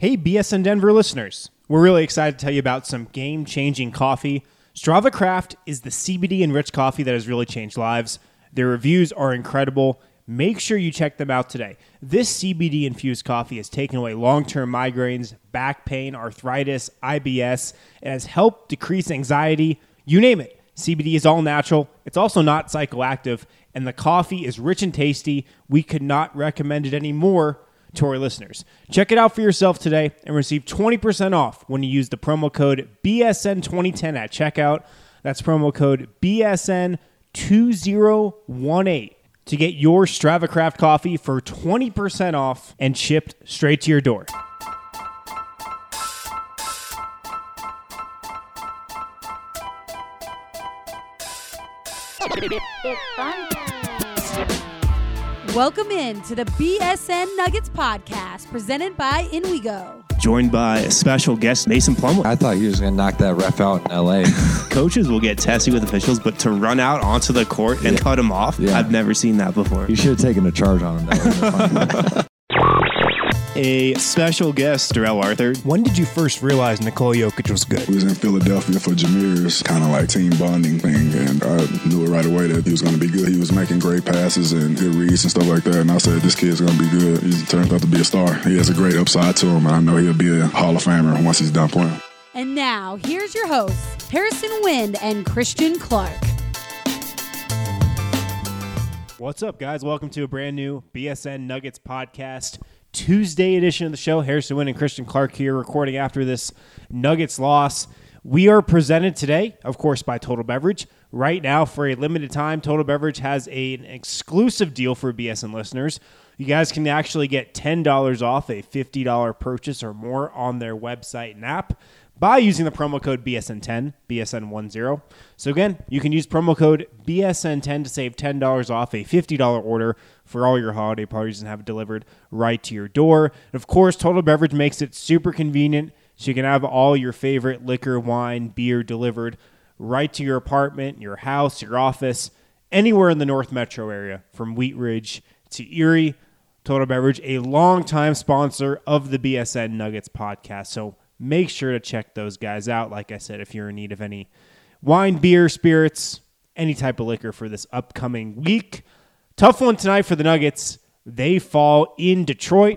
Hey, BSN Denver listeners. We're really excited to tell you about some game-changing coffee. Strava Craft is the CBD-enriched coffee that has really changed lives. Their reviews are incredible. Make sure you check them out today. This CBD-infused coffee has taken away long-term migraines, back pain, arthritis, IBS, and has helped decrease anxiety. You name it. CBD is all natural. It's also not psychoactive, and the coffee is rich and tasty. We could not recommend it any more to our listeners. Check it out for yourself today and receive 20% off when you use the promo code BSN2010 at checkout. That's promo code BSN2018 to get your Strava Craft coffee for 20% off and shipped straight to your door. It's fun. Welcome in to the BSN Nuggets podcast presented by InWeGo. Joined by a special guest, Mason Plumlee. I thought you was going to knock that ref out in L.A. Coaches will get testy with officials, but to run out onto the court and cut him off, I've never seen that before. You should have taken a charge on him. That A special guest, Darrell Arthur. When did you first realize Nikola Jokic was good? We was in Philadelphia for Jameer's kind of like team bonding thing, and I knew it right away that he was going to be good. He was making great passes and good reads and stuff like that, and I said, this kid's going to be good. He turned out to be a star. He has a great upside to him, and I know he'll be a Hall of Famer once he's done playing. And now, here's your hosts, Harrison Wind and Christian Clark. What's up, guys? Welcome to a brand new BSN Nuggets podcast. Tuesday edition of the show. Harrison Wind and Christian Clark here recording after this Nuggets loss. We are presented today, of course, by Total Beverage. Right now, for a limited time, Total Beverage has an exclusive deal for BSN listeners. You guys can actually get $10 off a $50 purchase or more on their website and app by using the promo code BSN10, BSN10. So again, you can use promo code BSN10 to save $10 off a $50 order for all your holiday parties and have it delivered right to your door. And of course, Total Beverage makes it super convenient so you can have all your favorite liquor, wine, beer delivered right to your apartment, your house, your office, anywhere in the North Metro area, from Wheat Ridge to Erie. Total Beverage, a longtime sponsor of the BSN Nuggets podcast. So make sure to check those guys out. Like I said, if you're in need of any wine, beer, spirits, any type of liquor for this upcoming week. Tough one tonight for the Nuggets. They fall in Detroit,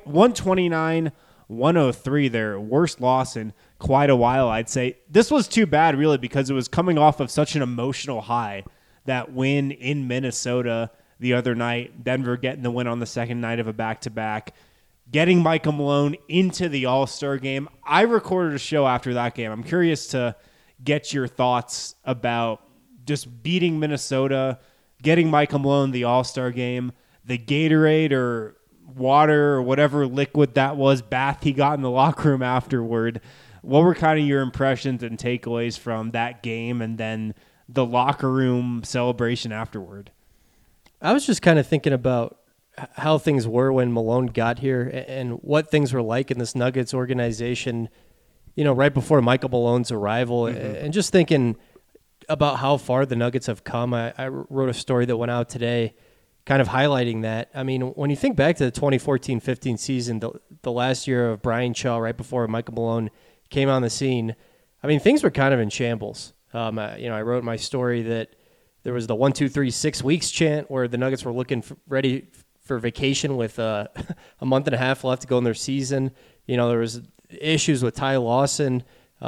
129-103, their worst loss in quite a while, I'd say. This was too bad, really, because it was coming off of such an emotional high, that win in Minnesota the other night, Denver getting the win on the second night of a back-to-back, getting Michael Malone into the All-Star game. I recorded a show after that game. I'm curious to get your thoughts about just beating Minnesota, getting Michael Malone the All-Star game, the Gatorade or water or whatever liquid that was, bath he got in the locker room afterward. What were kind of your impressions and takeaways from that game and then the locker room celebration afterward? I was just kind of thinking about how things were when Malone got here and what things were like in this Nuggets organization, you know, right before Michael Malone's arrival, and just thinking about how far the Nuggets have come. I wrote a story that went out today kind of highlighting that. I mean, when you think back to the 2014-15 season, the last year of Brian Shaw, right before Michael Malone came on the scene, I mean, things were kind of in shambles. I wrote in my story that there was the 1, 2, 3, 6 weeks chant where the Nuggets were looking ready for vacation with a month and a half left to go in their season. You know, there was issues with Ty Lawson.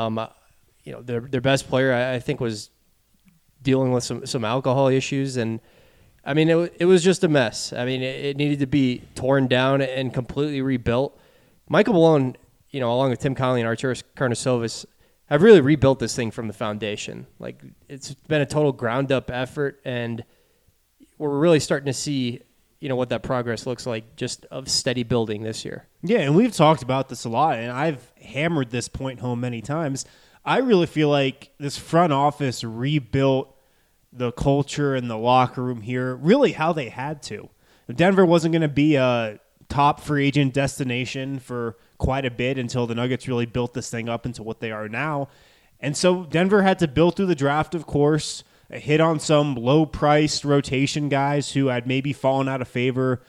Their best player, I think, was dealing with some alcohol issues. And, I mean, it was just a mess. I mean, it needed to be torn down and completely rebuilt. Michael Malone, you know, along with Tim Connelly and Arturas Karnisovas, have really rebuilt this thing from the foundation. Like, it's been a total ground-up effort, and we're really starting to see, you know, what that progress looks like, just of steady building this year. Yeah, and we've talked about this a lot, and I've hammered this point home many times. I really feel like this front office rebuilt the culture and the locker room here, really how they had to. Denver wasn't going to be a top free agent destination for quite a bit until the Nuggets really built this thing up into what they are now. And so Denver had to build through the draft, of course, hit on some low-priced rotation guys who had maybe fallen out of favor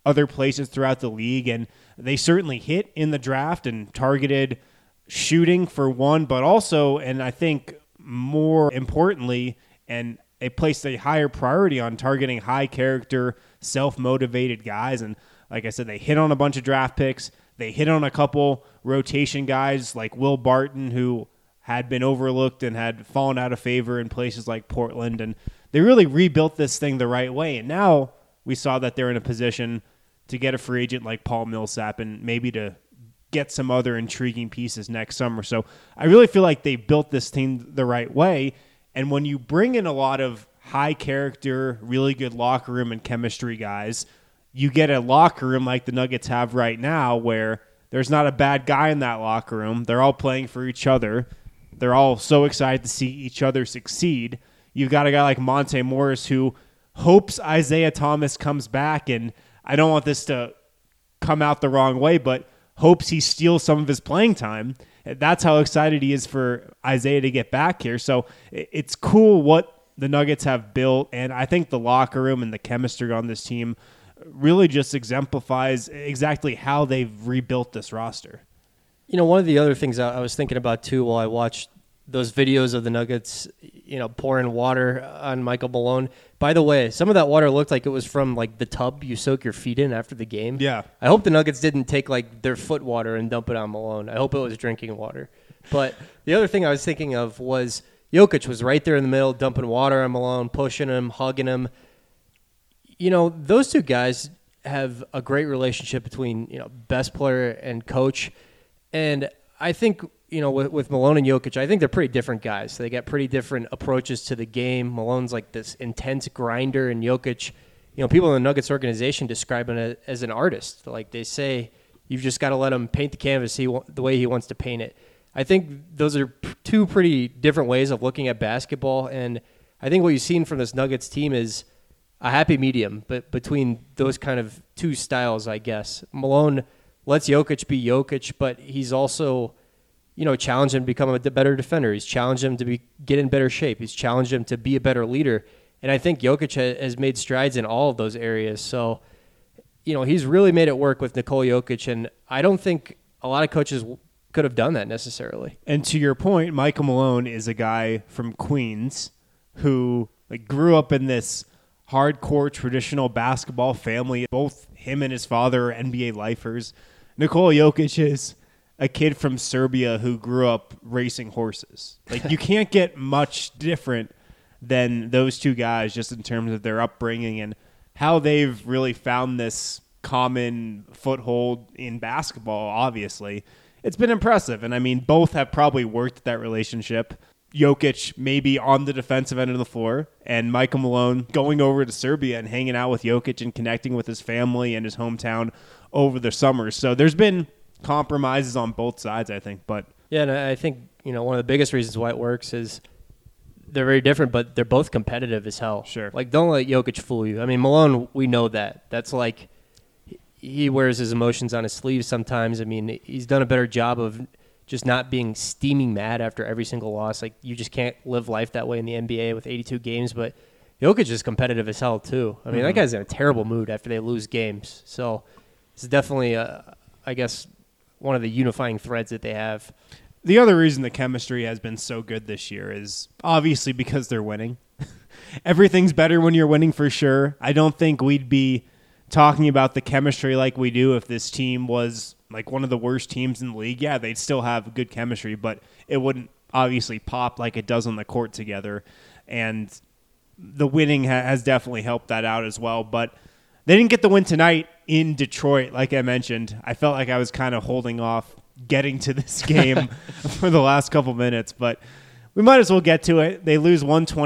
other places throughout the league, and they certainly hit in the draft and targeted shooting for one, but also, and I think more importantly, and they placed a higher priority on targeting high character, self-motivated guys. And like I said, they hit on a bunch of draft picks. They hit on a couple rotation guys like Will Barton, who had been overlooked and had fallen out of favor in places like Portland. And they really rebuilt this thing the right way. And now we saw that they're in a position to get a free agent like Paul Millsap and maybe to get some other intriguing pieces next summer. So I really feel like they built this team the right way. And when you bring in a lot of high character, really good locker room and chemistry guys, you get a locker room like the Nuggets have right now where there's not a bad guy in that locker room. They're all playing for each other. They're all so excited to see each other succeed. You've got a guy like Monte Morris who hopes Isaiah Thomas comes back, and I don't want this to come out the wrong way, but hopes he steals some of his playing time. That's how excited he is for Isaiah to get back here. So it's cool what the Nuggets have built, and I think the locker room and the chemistry on this team really just exemplifies exactly how they've rebuilt this roster. You know, one of the other things I was thinking about too while I watched those videos of the Nuggets, you know, pouring water on Michael Malone. By the way, some of that water looked like it was from like the tub you soak your feet in after the game. Yeah. I hope the Nuggets didn't take like their foot water and dump it on Malone. I hope it was drinking water. But the other thing I was thinking of was Jokic was right there in the middle, dumping water on Malone, pushing him, hugging him. You know, those two guys have a great relationship between, you know, best player and coach. And I think, you know, with Malone and Jokic, I think they're pretty different guys. They got pretty different approaches to the game. Malone's like this intense grinder, and Jokic, you know, people in the Nuggets organization describe him as an artist. Like they say, you've just got to let him paint the canvas the way he wants to paint it. I think those are two pretty different ways of looking at basketball, and I think what you've seen from this Nuggets team is a happy medium between those kind of two styles, I guess. Malone lets Jokic be Jokic, but he's also, you know, challenged him to become a better defender. He's challenged him to get in better shape. He's challenged him to be a better leader. And I think Jokic has made strides in all of those areas. So, you know, he's really made it work with Nikola Jokic, and I don't think a lot of coaches could have done that necessarily. And to your point, Michael Malone is a guy from Queens who like grew up in this hardcore traditional basketball family. Both him and his father are NBA lifers. Nikola Jokic is a kid from Serbia who grew up racing horses. Like, you can't get much different than those two guys just in terms of their upbringing and how they've really found this common foothold in basketball, obviously. It's been impressive. And, I mean, both have probably worked at that relationship. Jokic maybe on the defensive end of the floor, and Michael Malone going over to Serbia and hanging out with Jokic and connecting with his family and his hometown over the summer. So there's been compromises on both sides, I think. But yeah, and I think, you know, one of the biggest reasons why it works is they're very different, but they're both competitive as hell. Sure. Like, don't let Jokic fool you. I mean, Malone, we know that. That's like he wears his emotions on his sleeves sometimes. I mean, he's done a better job of just not being steaming mad after every single loss. Like, you just can't live life that way in the NBA with 82 games. But Jokic is competitive as hell, too. I mean, that guy's in a terrible mood after they lose games. So it's definitely, I guess, one of the unifying threads that they have. The other reason the chemistry has been so good this year is obviously because they're winning. Everything's better when you're winning, for sure. I don't think we'd be talking about the chemistry like we do if this team was like one of the worst teams in the league. Yeah, they'd still have good chemistry, but it wouldn't obviously pop like it does on the court together. And the winning has definitely helped that out as well. But they didn't get the win tonight in Detroit, like I mentioned. I felt like I was kind of holding off getting to this game for the last couple minutes, but we might as well get to it. They lose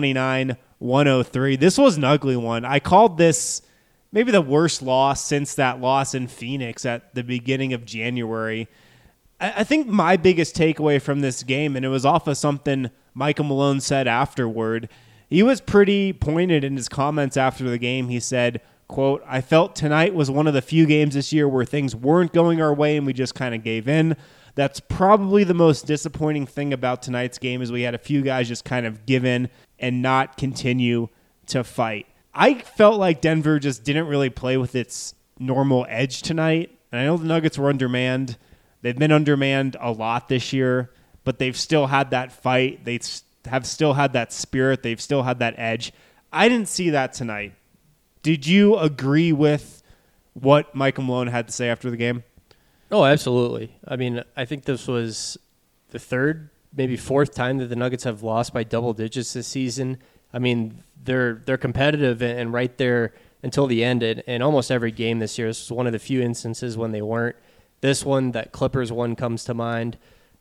129-103. This was an ugly one. I called this maybe the worst loss since that loss in Phoenix at the beginning of January. I think my biggest takeaway from this game, and it was off of something Michael Malone said afterward, he was pretty pointed in his comments after the game. He said, quote, "I felt tonight was one of the few games this year where things weren't going our way and we just kind of gave in. That's probably the most disappointing thing about tonight's game is we had a few guys just kind of give in and not continue to fight." I felt like Denver just didn't really play with its normal edge tonight. And I know the Nuggets were undermanned. They've been undermanned a lot this year, but they've still had that fight. They have still had that spirit. They've still had that edge. I didn't see that tonight. Did you agree with what Michael Malone had to say after the game? Oh, absolutely. I mean, I think this was the third, maybe fourth time that the Nuggets have lost by double digits this season. I mean, they're competitive and right there until the end in almost every game this year. This was one of the few instances when they weren't. This one, that Clippers one, comes to mind.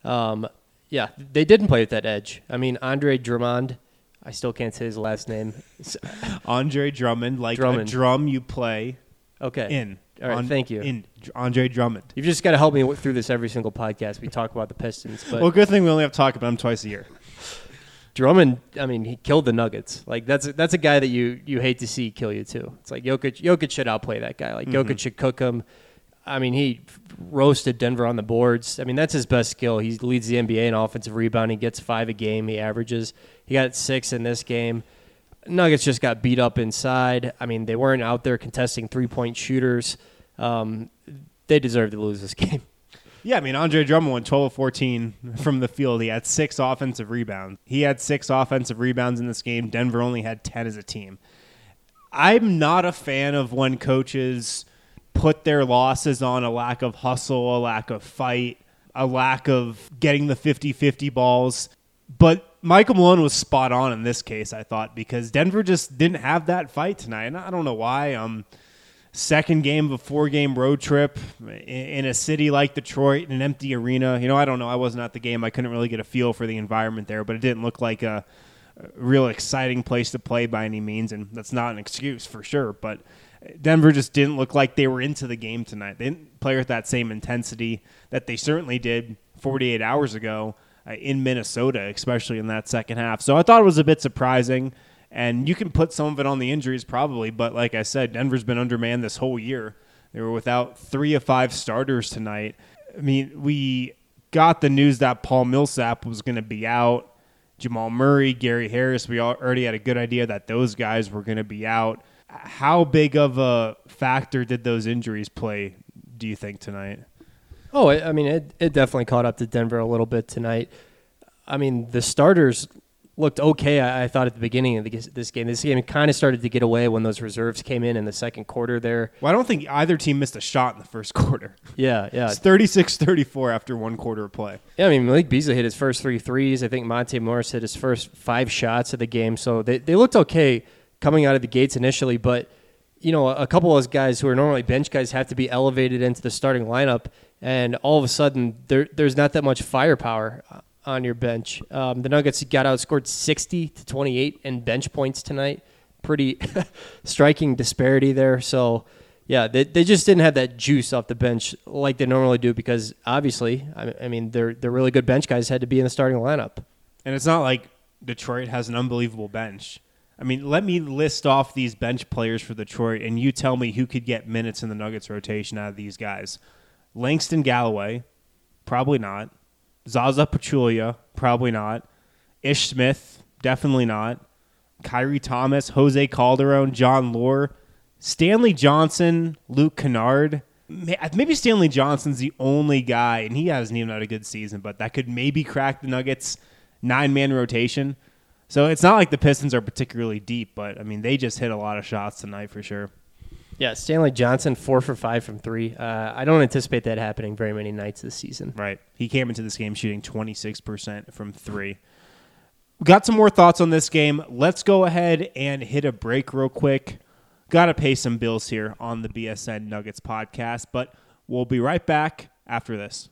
Yeah, they didn't play with that edge. I mean, Andre Drummond, I still can't say his last name. Andre Drummond, like Drummond. a drum you play in. All right, thank you. In Andre Drummond. You've just got to help me through this every single podcast. We talk about the Pistons. But Well, good thing we only have to talk about him twice a year. Drummond, I mean, he killed the Nuggets. Like that's a guy that you hate to see kill you too. It's like Jokic should outplay that guy. Like Jokic should cook him. I mean, he roasted Denver on the boards. I mean, that's his best skill. He leads the NBA in offensive rebounding. He gets 5 a game. He got 6 in this game. Nuggets just got beat up inside. I mean, they weren't out there contesting 3-point shooters. They deserved to lose this game. Yeah, I mean, Andre Drummond went 12 of 14 from the field. He had 6 offensive rebounds. He had 6 offensive rebounds in this game. Denver only had 10 as a team. I'm not a fan of when coaches put their losses on a lack of hustle, a lack of fight, a lack of getting the 50-50 balls. But Michael Malone was spot on in this case, I thought, because Denver just didn't have that fight tonight. And I don't know why. Second game of a 4-game road trip in a city like Detroit, in an empty arena. I don't know. I wasn't at the game. I couldn't really get a feel for the environment there, but it didn't look like a real exciting place to play by any means, and that's not an excuse for sure. But Denver just didn't look like they were into the game tonight. They didn't play with that same intensity that they certainly did 48 hours ago in Minnesota, especially in that second half. So I thought it was a bit surprising, and you can put some of it on the injuries probably, but like I said, Denver's been undermanned this whole year. They were without 3 of 5 starters tonight. I mean, we got the news that Paul Millsap was going to be out. Jamal Murray, Gary Harris, we already had a good idea that those guys were going to be out. How big of a factor did those injuries play, do you think, tonight? Oh, I mean, it definitely caught up to Denver a little bit tonight. I mean, the starters looked okay, I thought, at the beginning of this game. This game kind of started to get away when those reserves came in the second quarter there. Well, I don't think either team missed a shot in the first quarter. Yeah. It's 36-34 after one quarter of play. Yeah, I mean, Malik Beasley hit his first 3 threes. I think Monte Morris hit his first 5 shots of the game. So they looked okay coming out of the gates initially, but a couple of those guys who are normally bench guys have to be elevated into the starting lineup, and all of a sudden there's not that much firepower on your bench. The Nuggets got outscored 60-28 in bench points tonight. Pretty striking disparity there. So, yeah, they just didn't have that juice off the bench like they normally do because, obviously, I mean, they're really good bench guys had to be in the starting lineup. And it's not like Detroit has an unbelievable bench. I mean, let me list off these bench players for Detroit, and you tell me who could get minutes in the Nuggets rotation out of these guys. Langston Galloway, probably not. Zaza Pachulia, probably not. Ish Smith, definitely not. Kyrie Thomas, Jose Calderon, John Lore, Stanley Johnson, Luke Kennard. Maybe Stanley Johnson's the only guy, and he hasn't even had a good season, but that could maybe crack the Nuggets' 9-man rotation. So it's not like the Pistons are particularly deep, but, I mean, they just hit a lot of shots tonight for sure. Yeah, Stanley Johnson, 4 for 5 from 3. I don't anticipate that happening very many nights this season. Right. He came into this game shooting 26% from 3. We got some more thoughts on this game. Let's go ahead and hit a break real quick. Got to pay some bills here on the BSN Nuggets podcast, but we'll be right back after this.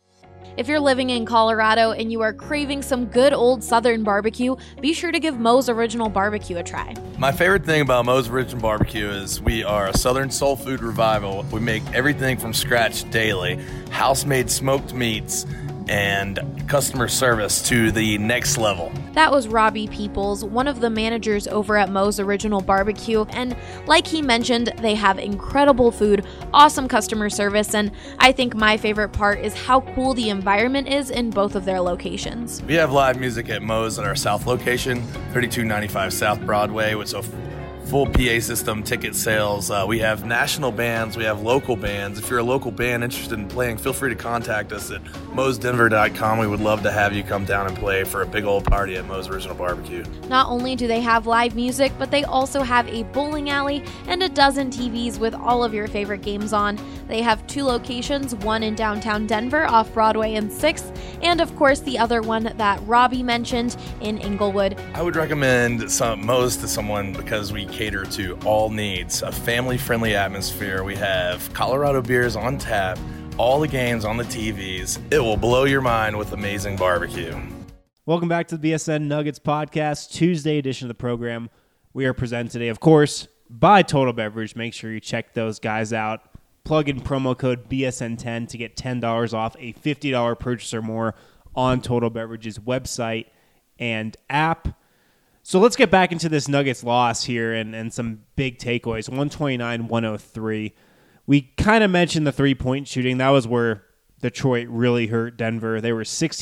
If you're living in Colorado and you are craving some good old Southern barbecue, be sure to give Moe's Original Barbecue a try. My favorite thing about Moe's Original Barbecue is we are a Southern soul food revival. We make everything from scratch daily, house-made smoked meats, and customer service to the next level. That was Robbie Peoples, one of the managers over at Moe's Original Barbecue, and like he mentioned, they have incredible food, awesome customer service, and I think my favorite part is how cool the environment is in both of their locations. We have live music at Moe's at our south location, 3295 South Broadway, with so full PA system, ticket sales. We have national bands. We have local bands. If you're a local band interested in playing, feel free to contact us at mosdenver.com. We would love to have you come down and play for a big old party at Moe's Original Barbecue. Not only do they have live music, but they also have a bowling alley and a dozen TVs with all of your favorite games on. They have 2 locations, one in downtown Denver off Broadway and 6th, and of course the other one that Robbie mentioned in Inglewood. I would recommend Moe's to someone because we cater to all needs, a family-friendly atmosphere. We have Colorado beers on tap, all the games on the TVs. It will blow your mind with amazing barbecue. Welcome back to the BSN Nuggets Podcast, Tuesday edition of the program. We are presented today, of course, by Total Beverage. Make sure you check those guys out. Plug in promo code BSN10 to get $10 off a $50 purchase or more on Total Beverage's website and app. So let's get back into this Nuggets loss here and some big takeaways. 129-103. We kind of mentioned the three-point shooting. That was where Detroit really hurt Denver. They were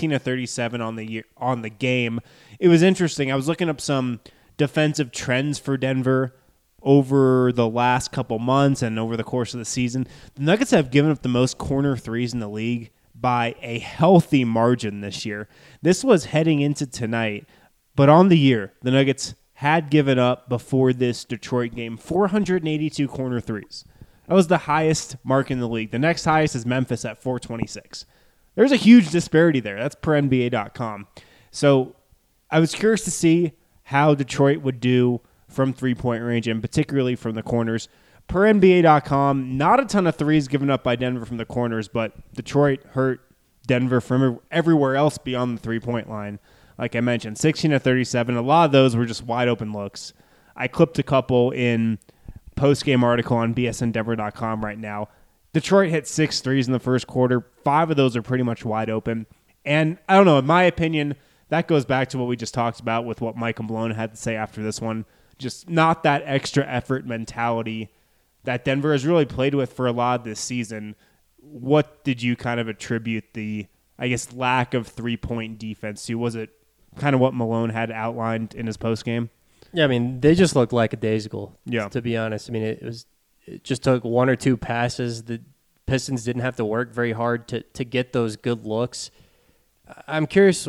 16-37 on the game. It was interesting. I was looking up some defensive trends for Denver over the last couple months and over the course of the season. The Nuggets have given up the most corner threes in the league by a healthy margin this year. This was heading into tonight. But on the year, the Nuggets had given up before this Detroit game 482 corner threes. That was the highest mark in the league. The next highest is Memphis at 426. There's a huge disparity there. That's per NBA.com. So I was curious to see how Detroit would do from three-point range and particularly from the corners. Per NBA.com, not a ton of threes given up by Denver from the corners, but Detroit hurt Denver from everywhere else beyond the three-point line. Like I mentioned, 16-37. A lot of those were just wide open looks. I clipped a couple in post-game article on bsndenver.com right now. Detroit hit 6 threes in the first quarter. 5 of those are pretty much wide open. And I don't know, in my opinion, that goes back to what we just talked about with what Michael Malone had to say after this one. Just not that extra effort mentality that Denver has really played with for a lot of this season. What did you kind of attribute the, I guess, lack of three-point defense to? Was it kind of what Malone had outlined in his postgame? Yeah, I mean, they just looked lackadaisical, yeah, to be honest. I mean, it just took 1 or 2 passes. The Pistons didn't have to work very hard to get those good looks. I'm curious,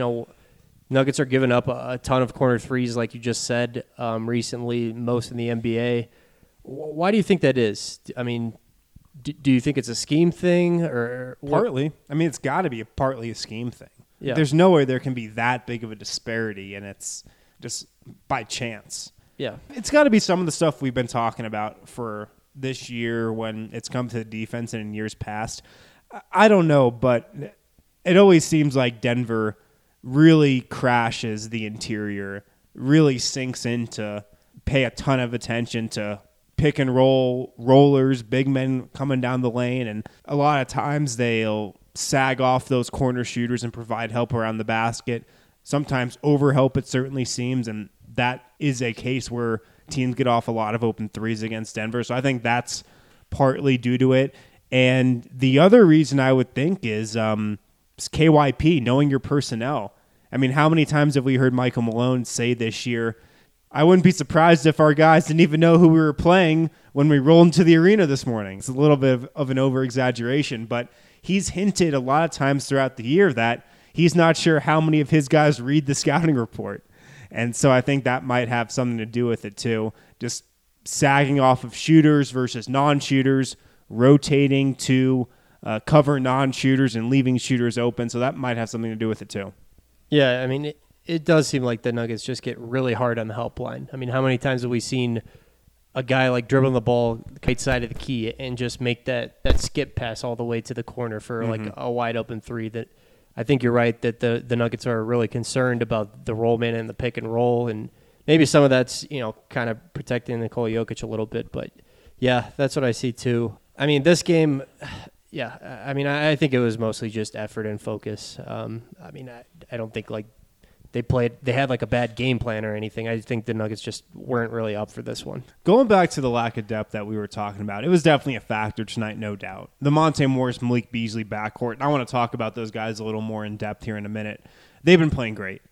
Nuggets are giving up a ton of corner threes, like you just said, recently, most in the NBA. Why do you think that is? I mean, do you think it's a scheme thing? Or partly. I mean, it's got to be partly a scheme thing. Yeah. There's no way there can be that big of a disparity, and it's just by chance. Yeah. It's got to be some of the stuff we've been talking about for this year when it's come to the defense and in years past. I don't know, but it always seems like Denver really crashes the interior, really sinks into pay a ton of attention to pick and roll rollers, big men coming down the lane, and a lot of times they'll sag off those corner shooters and provide help around the basket. Sometimes overhelp, it certainly seems, and that is a case where teams get off a lot of open threes against Denver. So I think that's partly due to it. And the other reason I would think is KYP, knowing your personnel. I mean, how many times have we heard Michael Malone say this year, I wouldn't be surprised if our guys didn't even know who we were playing when we rolled into the arena this morning. It's a little bit of an over-exaggeration, but he's hinted a lot of times throughout the year that he's not sure how many of his guys read the scouting report. And so I think that might have something to do with it too. Just sagging off of shooters versus non-shooters, rotating to cover non-shooters and leaving shooters open. So that might have something to do with it too. Yeah, I mean, it does seem like the Nuggets just get really hard on the help line. I mean, how many times have we seen a guy like dribbling the ball right side of the key and just make that skip pass all the way to the corner for like a wide open three? That I think you're right that the Nuggets are really concerned about the roll man and the pick and roll, and maybe some of that's kind of protecting Nikola Jokic a little bit. But yeah, that's what I see too. I mean, this game, yeah, I mean, I think it was mostly just effort and focus. I mean, I don't think like they had like a bad game plan or anything. I think the Nuggets just weren't really up for this one. Going back to the lack of depth that we were talking about, it was definitely a factor tonight, no doubt. The Monte Morris, Malik Beasley backcourt, and I want to talk about those guys a little more in depth here in a minute. They've been playing great.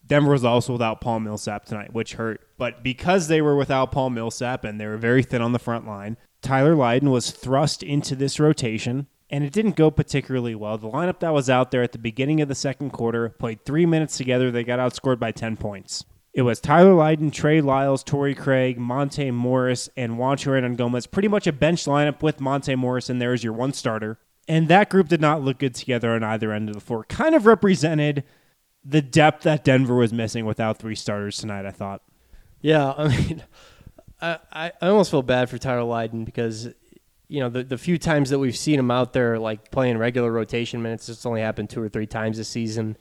Denver was also without Paul Millsap tonight, which hurt. But because they were without Paul Millsap and they were very thin on the front line, Tyler Lydon was thrust into this rotation, and it didn't go particularly well. The lineup that was out there at the beginning of the second quarter played 3 minutes together. They got outscored by 10 points. It was Tyler Lydon, Trey Lyles, Torrey Craig, Monte Morris, and Juancho Hernangomez. Pretty much a bench lineup with Monte Morris in there as your one starter. And that group did not look good together on either end of the floor. Kind of represented the depth that Denver was missing without 3 starters tonight, I thought. Yeah, I mean, I almost feel bad for Tyler Lydon because, you know, the few times that we've seen him out there, like, playing regular rotation minutes, it's only happened 2 or 3 times this season.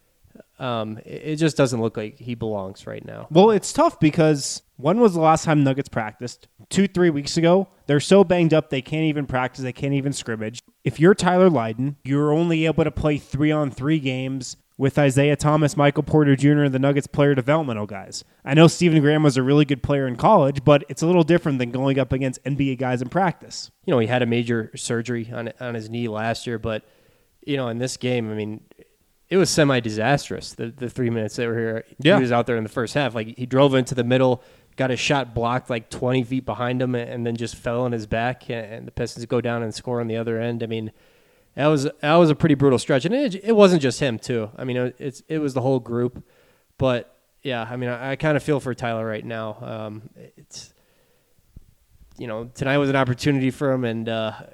It just doesn't look like he belongs right now. Well, it's tough because when was the last time Nuggets practiced? 2-3 weeks ago. They're so banged up they can't even practice. They can't even scrimmage. If you're Tyler Lydon, you're only able to play 3-on-3 games with Isaiah Thomas, Michael Porter Jr., and the Nuggets player developmental guys. I know Stephen Graham was a really good player in college, but it's a little different than going up against NBA guys in practice. You know, he had a major surgery on his knee last year, but, you know, in this game, I mean, it was semi-disastrous, the 3 minutes they were here. Yeah. He was out there in the first half. Like, he drove into the middle, got his shot blocked like 20 feet behind him, and then just fell on his back, and the Pistons go down and score on the other end. I mean, that was a pretty brutal stretch. And it wasn't just him, too. I mean, it was the whole group. But, yeah, I mean, I kind of feel for Tyler right now. It's, you know, tonight was an opportunity for him, and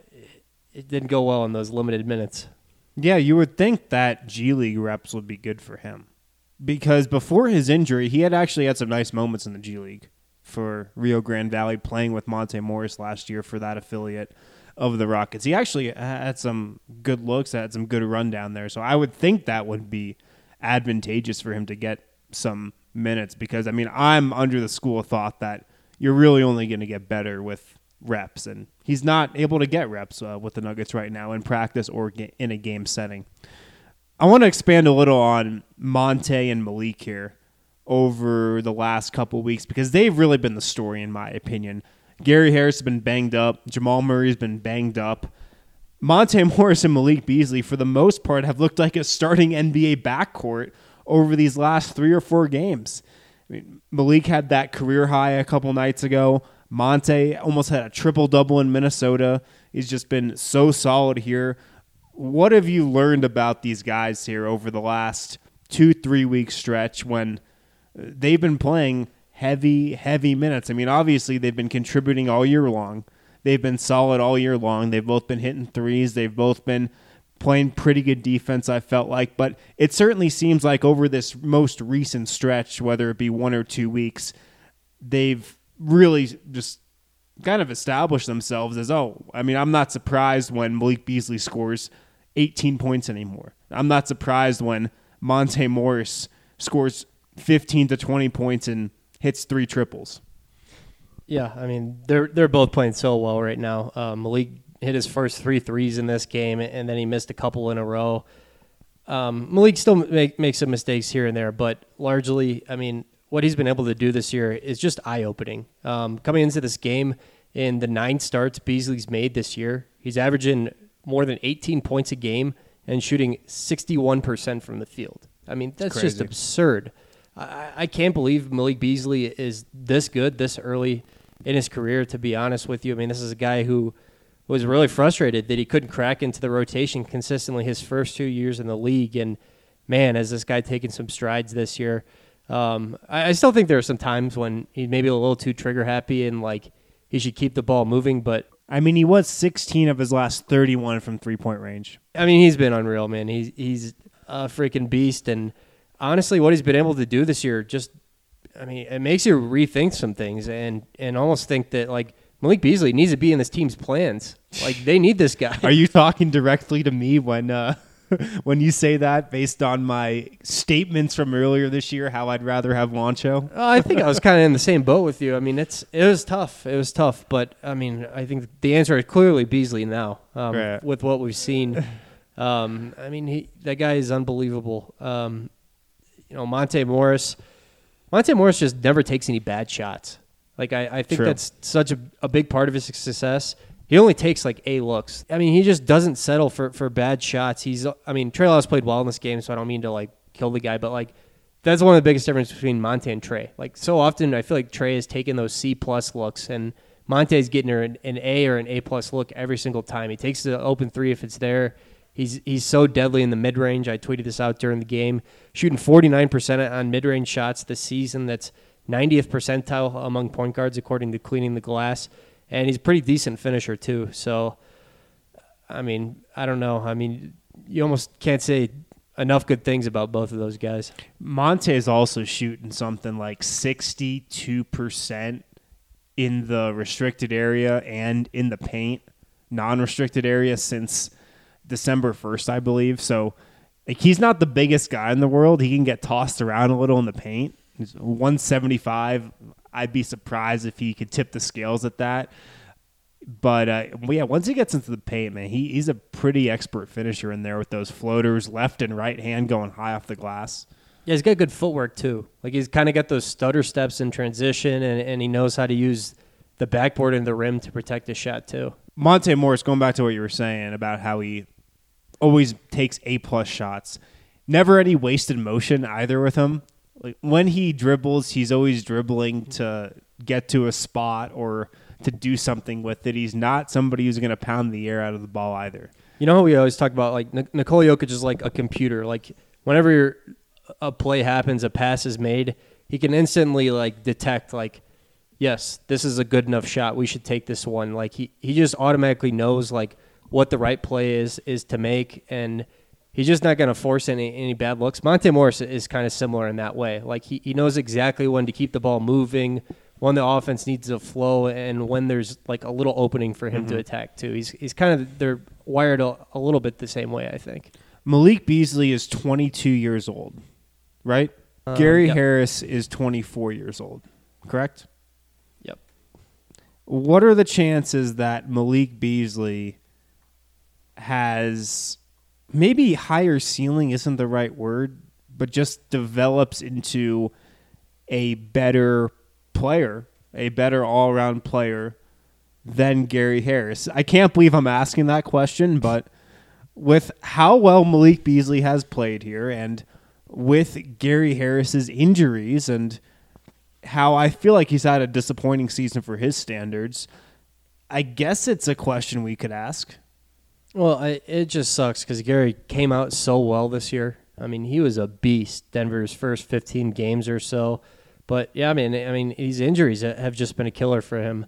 it didn't go well in those limited minutes. Yeah, you would think that G League reps would be good for him. Because before his injury, he had actually had some nice moments in the G League for Rio Grande Valley, playing with Monte Morris last year for that affiliate of the Rockets. He actually had some good looks, had some good run down there. So I would think that would be advantageous for him to get some minutes because, I mean, I'm under the school of thought that you're really only going to get better with reps, and he's not able to get reps with the Nuggets right now in practice or in a game setting. I want to expand a little on Monte and Malik here over the last couple weeks because they've really been the story in my opinion. Gary Harris has been banged up. Jamal Murray's been banged up. Monte Morris and Malik Beasley, for the most part, have looked like a starting NBA backcourt over these last 3 or 4 games. I mean, Malik had that career high a couple nights ago. Monte almost had a triple-double in Minnesota. He's just been so solid here. What have you learned about these guys here over the last 2-3 week stretch when they've been playing heavy minutes? I mean, obviously they've been contributing all year long. They've been solid all year long. They've both been hitting threes. They've both been playing pretty good defense, I felt like. But it certainly seems like over this most recent stretch, whether it be 1 or 2 weeks, they've really just kind of established themselves as, I'm not surprised when Malik Beasley scores 18 points anymore. I'm not surprised when Monte Morris scores 15 to 20 points and hits 3 triples. Yeah, I mean, they're both playing so well right now. Malik hit his first 3 threes in this game, and then he missed a couple in a row. Malik still makes some mistakes here and there, but largely, I mean, what he's been able to do this year is just eye-opening. Coming into this game, in the 9 starts Beasley's made this year, he's averaging more than 18 points a game and shooting 61% from the field. I mean, that's just absurd. I can't believe Malik Beasley is this good this early in his career, to be honest with you. I mean, this is a guy who was really frustrated that he couldn't crack into the rotation consistently his first 2 years in the league. And, man, has this guy taken some strides this year. I still think there are some times when he's maybe a little too trigger happy and like he should keep the ball moving, but I mean, he was 16 of his last 31 from 3-point range. I mean, he's been unreal, man. He's a freaking beast, and honestly, what he's been able to do this year it makes you rethink some things and almost think that like Malik Beasley needs to be in this team's plans. Like they need this guy. Are you talking directly to me when when you say that based on my statements from earlier this year, how I'd rather have Juancho? I think I was kind of in the same boat with you. I mean, it was tough. It was tough, but I mean, I think the answer is clearly Beasley now right. with what we've seen. I mean, that guy is unbelievable. Monte Morris just never takes any bad shots. Like I think True. That's such a big part of his success. He only takes like A looks. I mean, he just doesn't settle for bad shots. Trey Lyles played well in this game, so I don't mean to like kill the guy, but like that's one of the biggest differences between Monte and Trey. Like, so often I feel like Trey has taken those C+ looks, and Monte's getting her an A or an A+ look every single time. He takes the open three if it's there. He's so deadly in the mid-range. I tweeted this out during the game. Shooting 49% on mid-range shots this season. That's 90th percentile among point guards according to Cleaning the Glass. And he's a pretty decent finisher too. So, I mean, I don't know. I mean, you almost can't say enough good things about both of those guys. Monte is also shooting something like 62% in the restricted area and in the paint, non-restricted area since December 1st, I believe. So like, he's not the biggest guy in the world. He can get tossed around a little in the paint. He's 175. I'd be surprised if he could tip the scales at that. But, yeah, once he gets into the paint, man, he's a pretty expert finisher in there with those floaters, left and right hand going high off the glass. Yeah, he's got good footwork, too. Like, he's kind of got those stutter steps in transition, and he knows how to use the backboard and the rim to protect his shot, too. Monte Morris, going back to what you were saying about how he always takes A+ shots. Never any wasted motion either with him. Like, when he dribbles, he's always dribbling to get to a spot or to do something with it. He's not somebody who's going to pound the air out of the ball either. You know how we always talk about, like, Nikola Jokic is like a computer. Like, whenever a play happens, a pass is made, he can instantly, like, detect, like, yes, this is a good enough shot. We should take this one. Like, he just automatically knows, like, what the right play is to make, and he's just not going to force any bad looks. Monte Morris is kind of similar in that way. Like, he knows exactly when to keep the ball moving, when the offense needs to flow, and when there's, like, a little opening for him to attack, too. He's kind of – they're wired a little bit the same way, I think. Malik Beasley is 22 years old, right? Gary Harris is 24 years old, correct? Yep. What are the chances that Malik Beasley has maybe higher ceiling isn't the right word, but just develops into a better player, a better all-around player than Gary Harris? I can't believe I'm asking that question, but with how well Malik Beasley has played here and with Gary Harris's injuries and how I feel like he's had a disappointing season for his standards, I guess it's a question we could ask. Well, it just sucks because Gary came out so well this year. I mean, he was a beast Denver's first 15 games or so. But, yeah, I mean, these injuries have just been a killer for him.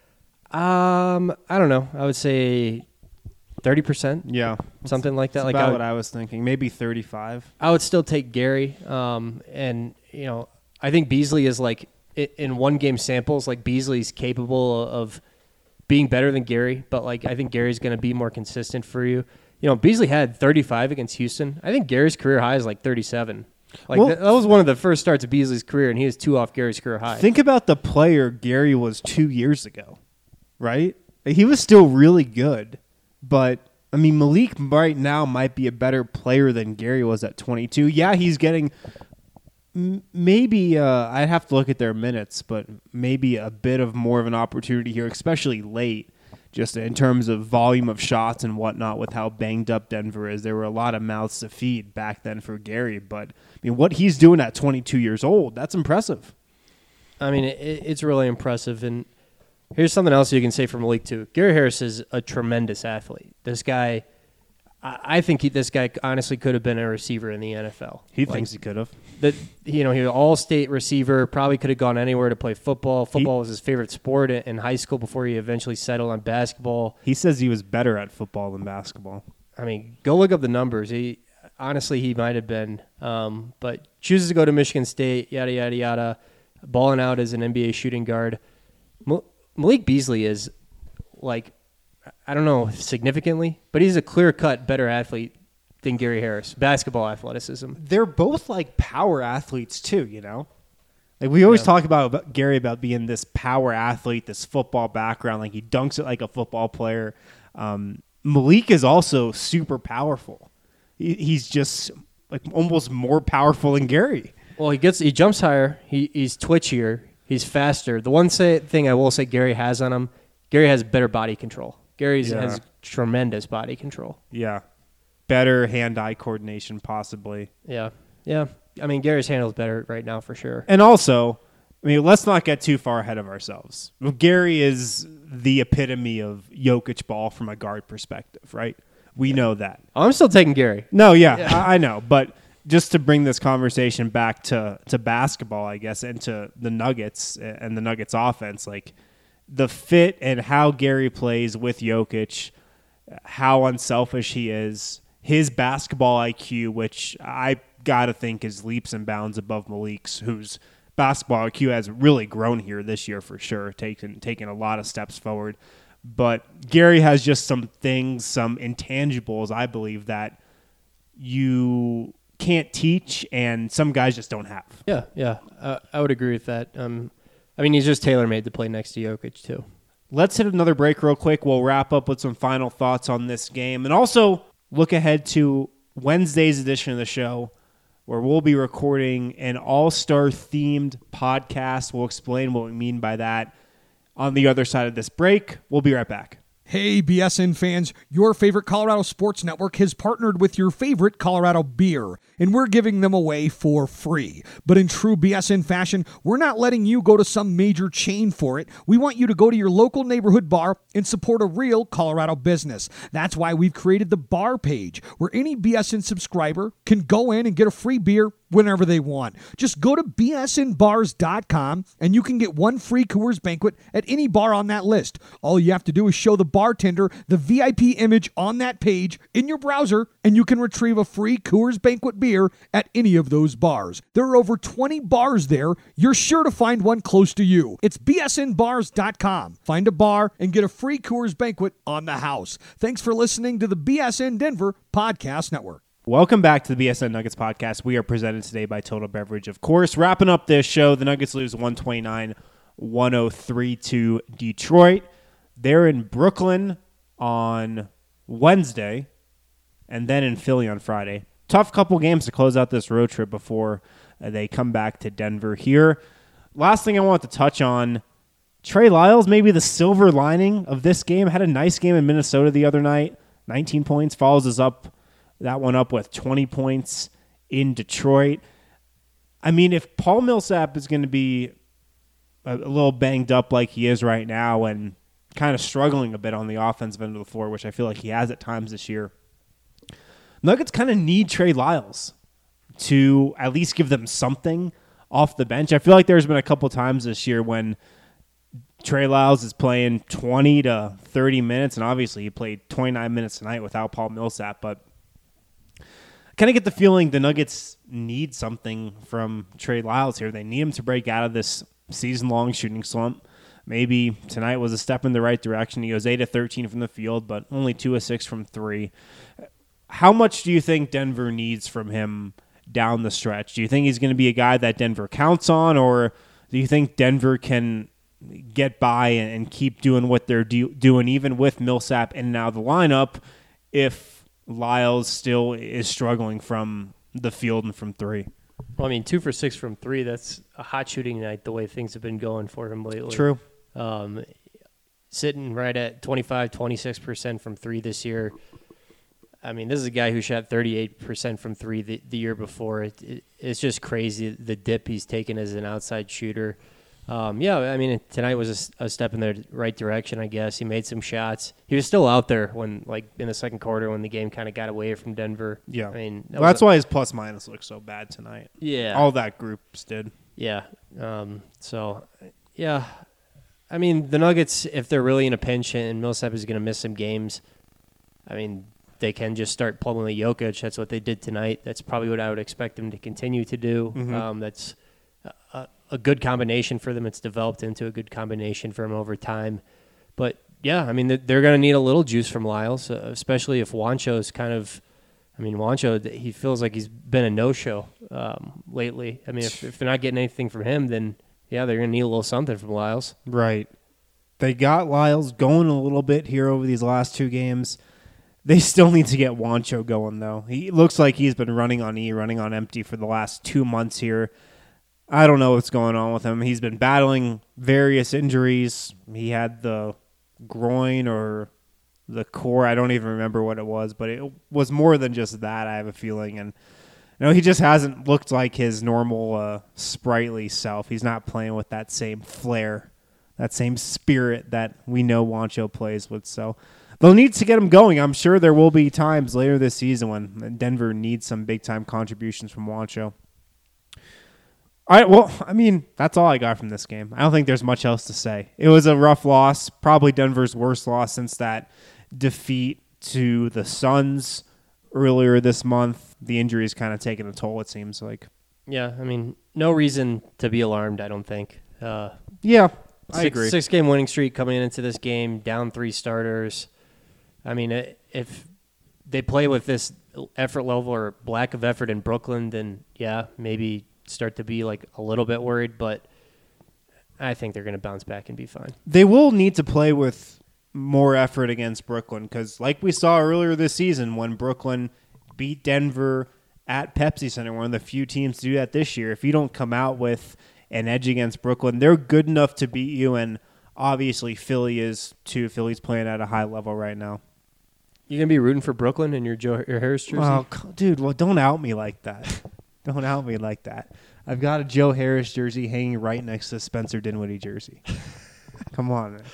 I don't know. I would say 30%. Yeah. Something like that. That's like about what I was thinking. Maybe 35. I would still take Gary. And, you know, I think Beasley is like, in one-game samples, like Beasley's capable of being better than Gary, but like I think Gary's going to be more consistent for you. You know, Beasley had 35 against Houston. I think Gary's career high is like 37. Like that was one of the first starts of Beasley's career, and he was 2 off Gary's career high. Think about the player Gary was 2 years ago, right? He was still really good, but I mean, Malik right now might be a better player than Gary was at 22. Yeah, he's getting maybe I'd have to look at their minutes, but maybe a bit of more of an opportunity here, especially late, just in terms of volume of shots and whatnot with how banged up Denver is. There were a lot of mouths to feed back then for Gary, but I mean, what he's doing at 22 years old, that's impressive. I mean, it's really impressive. And here's something else you can say for Malik, too. Gary Harris is a tremendous athlete. This guy, I think this guy honestly could have been a receiver in the NFL. He thinks he could have. He was an all-state receiver, probably could have gone anywhere to play football. Football was his favorite sport in high school before he eventually settled on basketball. He says he was better at football than basketball. I mean, go look up the numbers. He might have been, but chooses to go to Michigan State, yada, yada, yada, balling out as an NBA shooting guard. Malik Beasley is, like, I don't know significantly, but he's a clear-cut better athlete than Gary Harris. Basketball athleticism. They're both like power athletes too, you know? Like we always talk about Gary about being this power athlete, this football background, like he dunks it like a football player. Malik is also super powerful. He's just like almost more powerful than Gary. Well, he jumps higher, he's twitchier, he's faster. The one thing I will say Gary has on him, Gary has better body control. Gary has tremendous body control. Yeah. Better hand-eye coordination, possibly. Yeah. Yeah. I mean, Gary's handles better right now for sure. And also, I mean, let's not get too far ahead of ourselves. Gary is the epitome of Jokic ball from a guard perspective, right? We know that. I'm still taking Gary. No, I know. But just to bring this conversation back to basketball, I guess, and to the Nuggets and the Nuggets offense, like the fit and how Gary plays with Jokic, how unselfish he is, his basketball IQ, which I got to think is leaps and bounds above Malik's, whose basketball IQ has really grown here this year for sure, taken a lot of steps forward. But Gary has just some things, some intangibles, I believe, that you can't teach and some guys just don't have. Yeah. I would agree with that. I mean, he's just tailor-made to play next to Jokic, too. Let's hit another break real quick. We'll wrap up with some final thoughts on this game and also look ahead to Wednesday's edition of the show where we'll be recording an all-star themed podcast. We'll explain what we mean by that on the other side of this break. We'll be right back. Hey, BSN fans, your favorite Colorado Sports Network has partnered with your favorite Colorado beer, and we're giving them away for free. But in true BSN fashion, we're not letting you go to some major chain for it. We want you to go to your local neighborhood bar and support a real Colorado business. That's why we've created the bar page, where any BSN subscriber can go in and get a free beer whenever they want. Just go to bsnbars.com and you can get one free Coors Banquet at any bar on that list. All you have to do is show the bartender the VIP image on that page in your browser and you can retrieve a free Coors Banquet beer at any of those bars. There are over 20 bars there. You're sure to find one close to you. It's bsnbars.com. Find a bar and get a free Coors Banquet on the house. Thanks for listening to the BSN Denver Podcast Network. Welcome back to the BSN Nuggets podcast. We are presented today by Total Beverage, of course. Wrapping up this show, the Nuggets lose 129-103 to Detroit. They're in Brooklyn on Wednesday and then in Philly on Friday. Tough couple games to close out this road trip before they come back to Denver here. Last thing I want to touch on, Trey Lyles, maybe the silver lining of this game, had a nice game in Minnesota the other night. 19 points, follows us up. That one up with 20 points in Detroit. I mean, if Paul Millsap is going to be a little banged up like he is right now and kind of struggling a bit on the offensive end of the floor, which I feel like he has at times this year, Nuggets kind of need Trey Lyles to at least give them something off the bench. I feel like there's been a couple times this year when Trey Lyles is playing 20 to 30 minutes, and obviously he played 29 minutes tonight without Paul Millsap, but kind of get the feeling the Nuggets need something from Trey Lyles here. They need him to break out of this season-long shooting slump. Maybe tonight was a step in the right direction. He goes 8 of 13 from the field, but only 2 of 6 from 3. How much do you think Denver needs from him down the stretch? Do you think he's going to be a guy that Denver counts on, or do you think Denver can get by and keep doing what they're doing, even with Millsap in and out of the lineup, if Lyles still is struggling from the field and from 3? Well, I mean, 2 for 6 from 3, that's a hot shooting night the way things have been going for him lately. True. Sitting right at 25-26% from 3 this year. I mean, this is a guy who shot 38% from 3 the year before. It's just crazy, the dip he's taken as an outside shooter. Yeah, I mean, tonight was a step in the right direction, I guess. He made some shots. He was still out there when, like, in the second quarter when the game kind of got away from Denver. Yeah. I mean, that's why his plus-minus looked so bad tonight. Yeah. All that groups did. Yeah. Yeah. I mean, the Nuggets, if they're really in a pinch and Millsap is going to miss some games, I mean, they can just start plumbing the Jokic. That's what they did tonight. That's probably what I would expect them to continue to do. Mm-hmm. That's a good combination for them. It's developed into a good combination for them over time. But, yeah, I mean, they're going to need a little juice from Lyles, especially if Juancho's kind of – I mean, Juancho, he feels like he's been a no-show lately. I mean, if they're not getting anything from him, then, yeah, they're going to need a little something from Lyles. Right. They got Lyles going a little bit here over these last 2 games. They still need to get Juancho going, though. He looks like he's been running on running on empty for the last 2 months here. I don't know what's going on with him. He's been battling various injuries. He had the groin or the core. I don't even remember what it was, but it was more than just that, I have a feeling. And No, he just hasn't looked like his normal sprightly self. He's not playing with that same flair, that same spirit that we know Juancho plays with. So they'll need to get him going. I'm sure there will be times later this season when Denver needs some big-time contributions from Juancho. All right, well, I mean, that's all I got from this game. I don't think there's much else to say. It was a rough loss, probably Denver's worst loss since that defeat to the Suns earlier this month. The injury's kind of taken a toll, it seems like. Yeah, I mean, no reason to be alarmed, I don't think. Yeah, I agree. 6-game winning streak coming into this game, down 3 starters. I mean, if they play with this effort level or lack of effort in Brooklyn, then yeah, maybe start to be like a little bit worried, but I think they're going to bounce back and be fine. They will need to play with more effort against Brooklyn because like we saw earlier this season when Brooklyn beat Denver at Pepsi Center, one of the few teams to do that this year. If you don't come out with an edge against Brooklyn, they're good enough to beat you, and obviously Philly is too. Philly's playing at a high level right now. You going to be rooting for Brooklyn in your Harris jersey? Oh, dude, well, don't out me like that. Don't out me like that. I've got a Joe Harris jersey hanging right next to Spencer Dinwiddie jersey. Come on, man.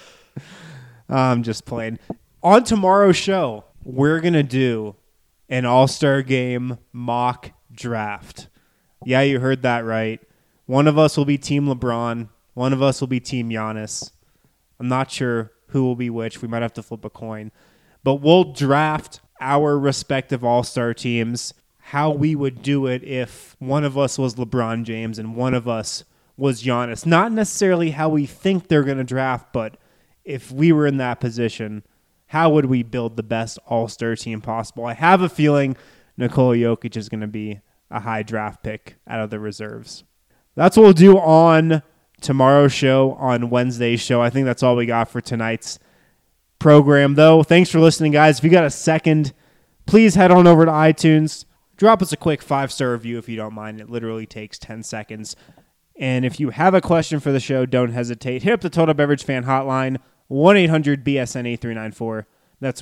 I'm just playing. On tomorrow's show, we're going to do an All-Star Game mock draft. Yeah, you heard that right. One of us will be Team LeBron. One of us will be Team Giannis. I'm not sure who will be which. We might have to flip a coin. But we'll draft our respective All-Star teams, how we would do it if one of us was LeBron James and one of us was Giannis. Not necessarily how we think they're going to draft, but if we were in that position, how would we build the best All-Star team possible? I have a feeling Nikola Jokic is going to be a high draft pick out of the reserves. That's what we'll do on tomorrow's show, on Wednesday's show. I think that's all we got for tonight's program, though. Thanks for listening, guys. If you got a second, please head on over to iTunes. Drop us a quick 5-star review if you don't mind. It literally takes 10 seconds. And if you have a question for the show, don't hesitate. Hit up the Total Beverage Fan Hotline, 1-800-BSN-8394. That's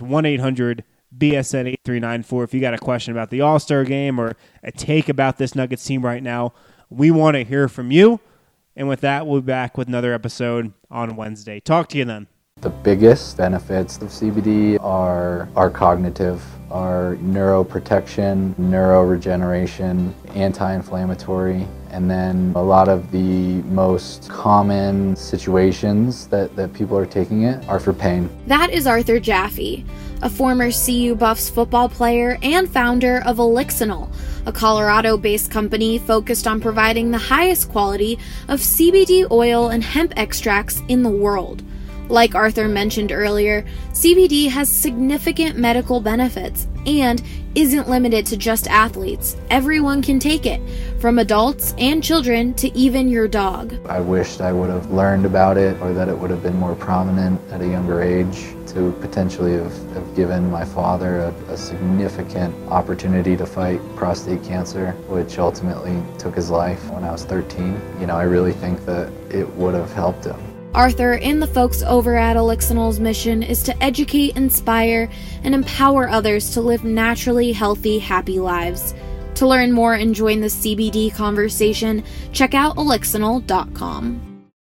1-800-BSN-8394. If you got a question about the All-Star Game or a take about this Nuggets team right now, we want to hear from you. And with that, we'll be back with another episode on Wednesday. Talk to you then. The biggest benefits of CBD are cognitive, are neuroprotection, neuroregeneration, anti-inflammatory, and then a lot of the most common situations that people are taking it are for pain. That is Arthur Jaffe, a former CU Buffs football player and founder of Elixinol, a Colorado-based company focused on providing the highest quality of CBD oil and hemp extracts in the world. Like Arthur mentioned earlier, CBD has significant medical benefits and isn't limited to just athletes. Everyone can take it, from adults and children to even your dog. I wished I would have learned about it, or that it would have been more prominent at a younger age, to potentially have given my father a significant opportunity to fight prostate cancer, which ultimately took his life when I was 13. I really think that it would have helped him. Arthur and the folks over at Elixinol's mission is to educate, inspire, and empower others to live naturally healthy, happy lives. To learn more and join the CBD conversation, check out Elixinol.com.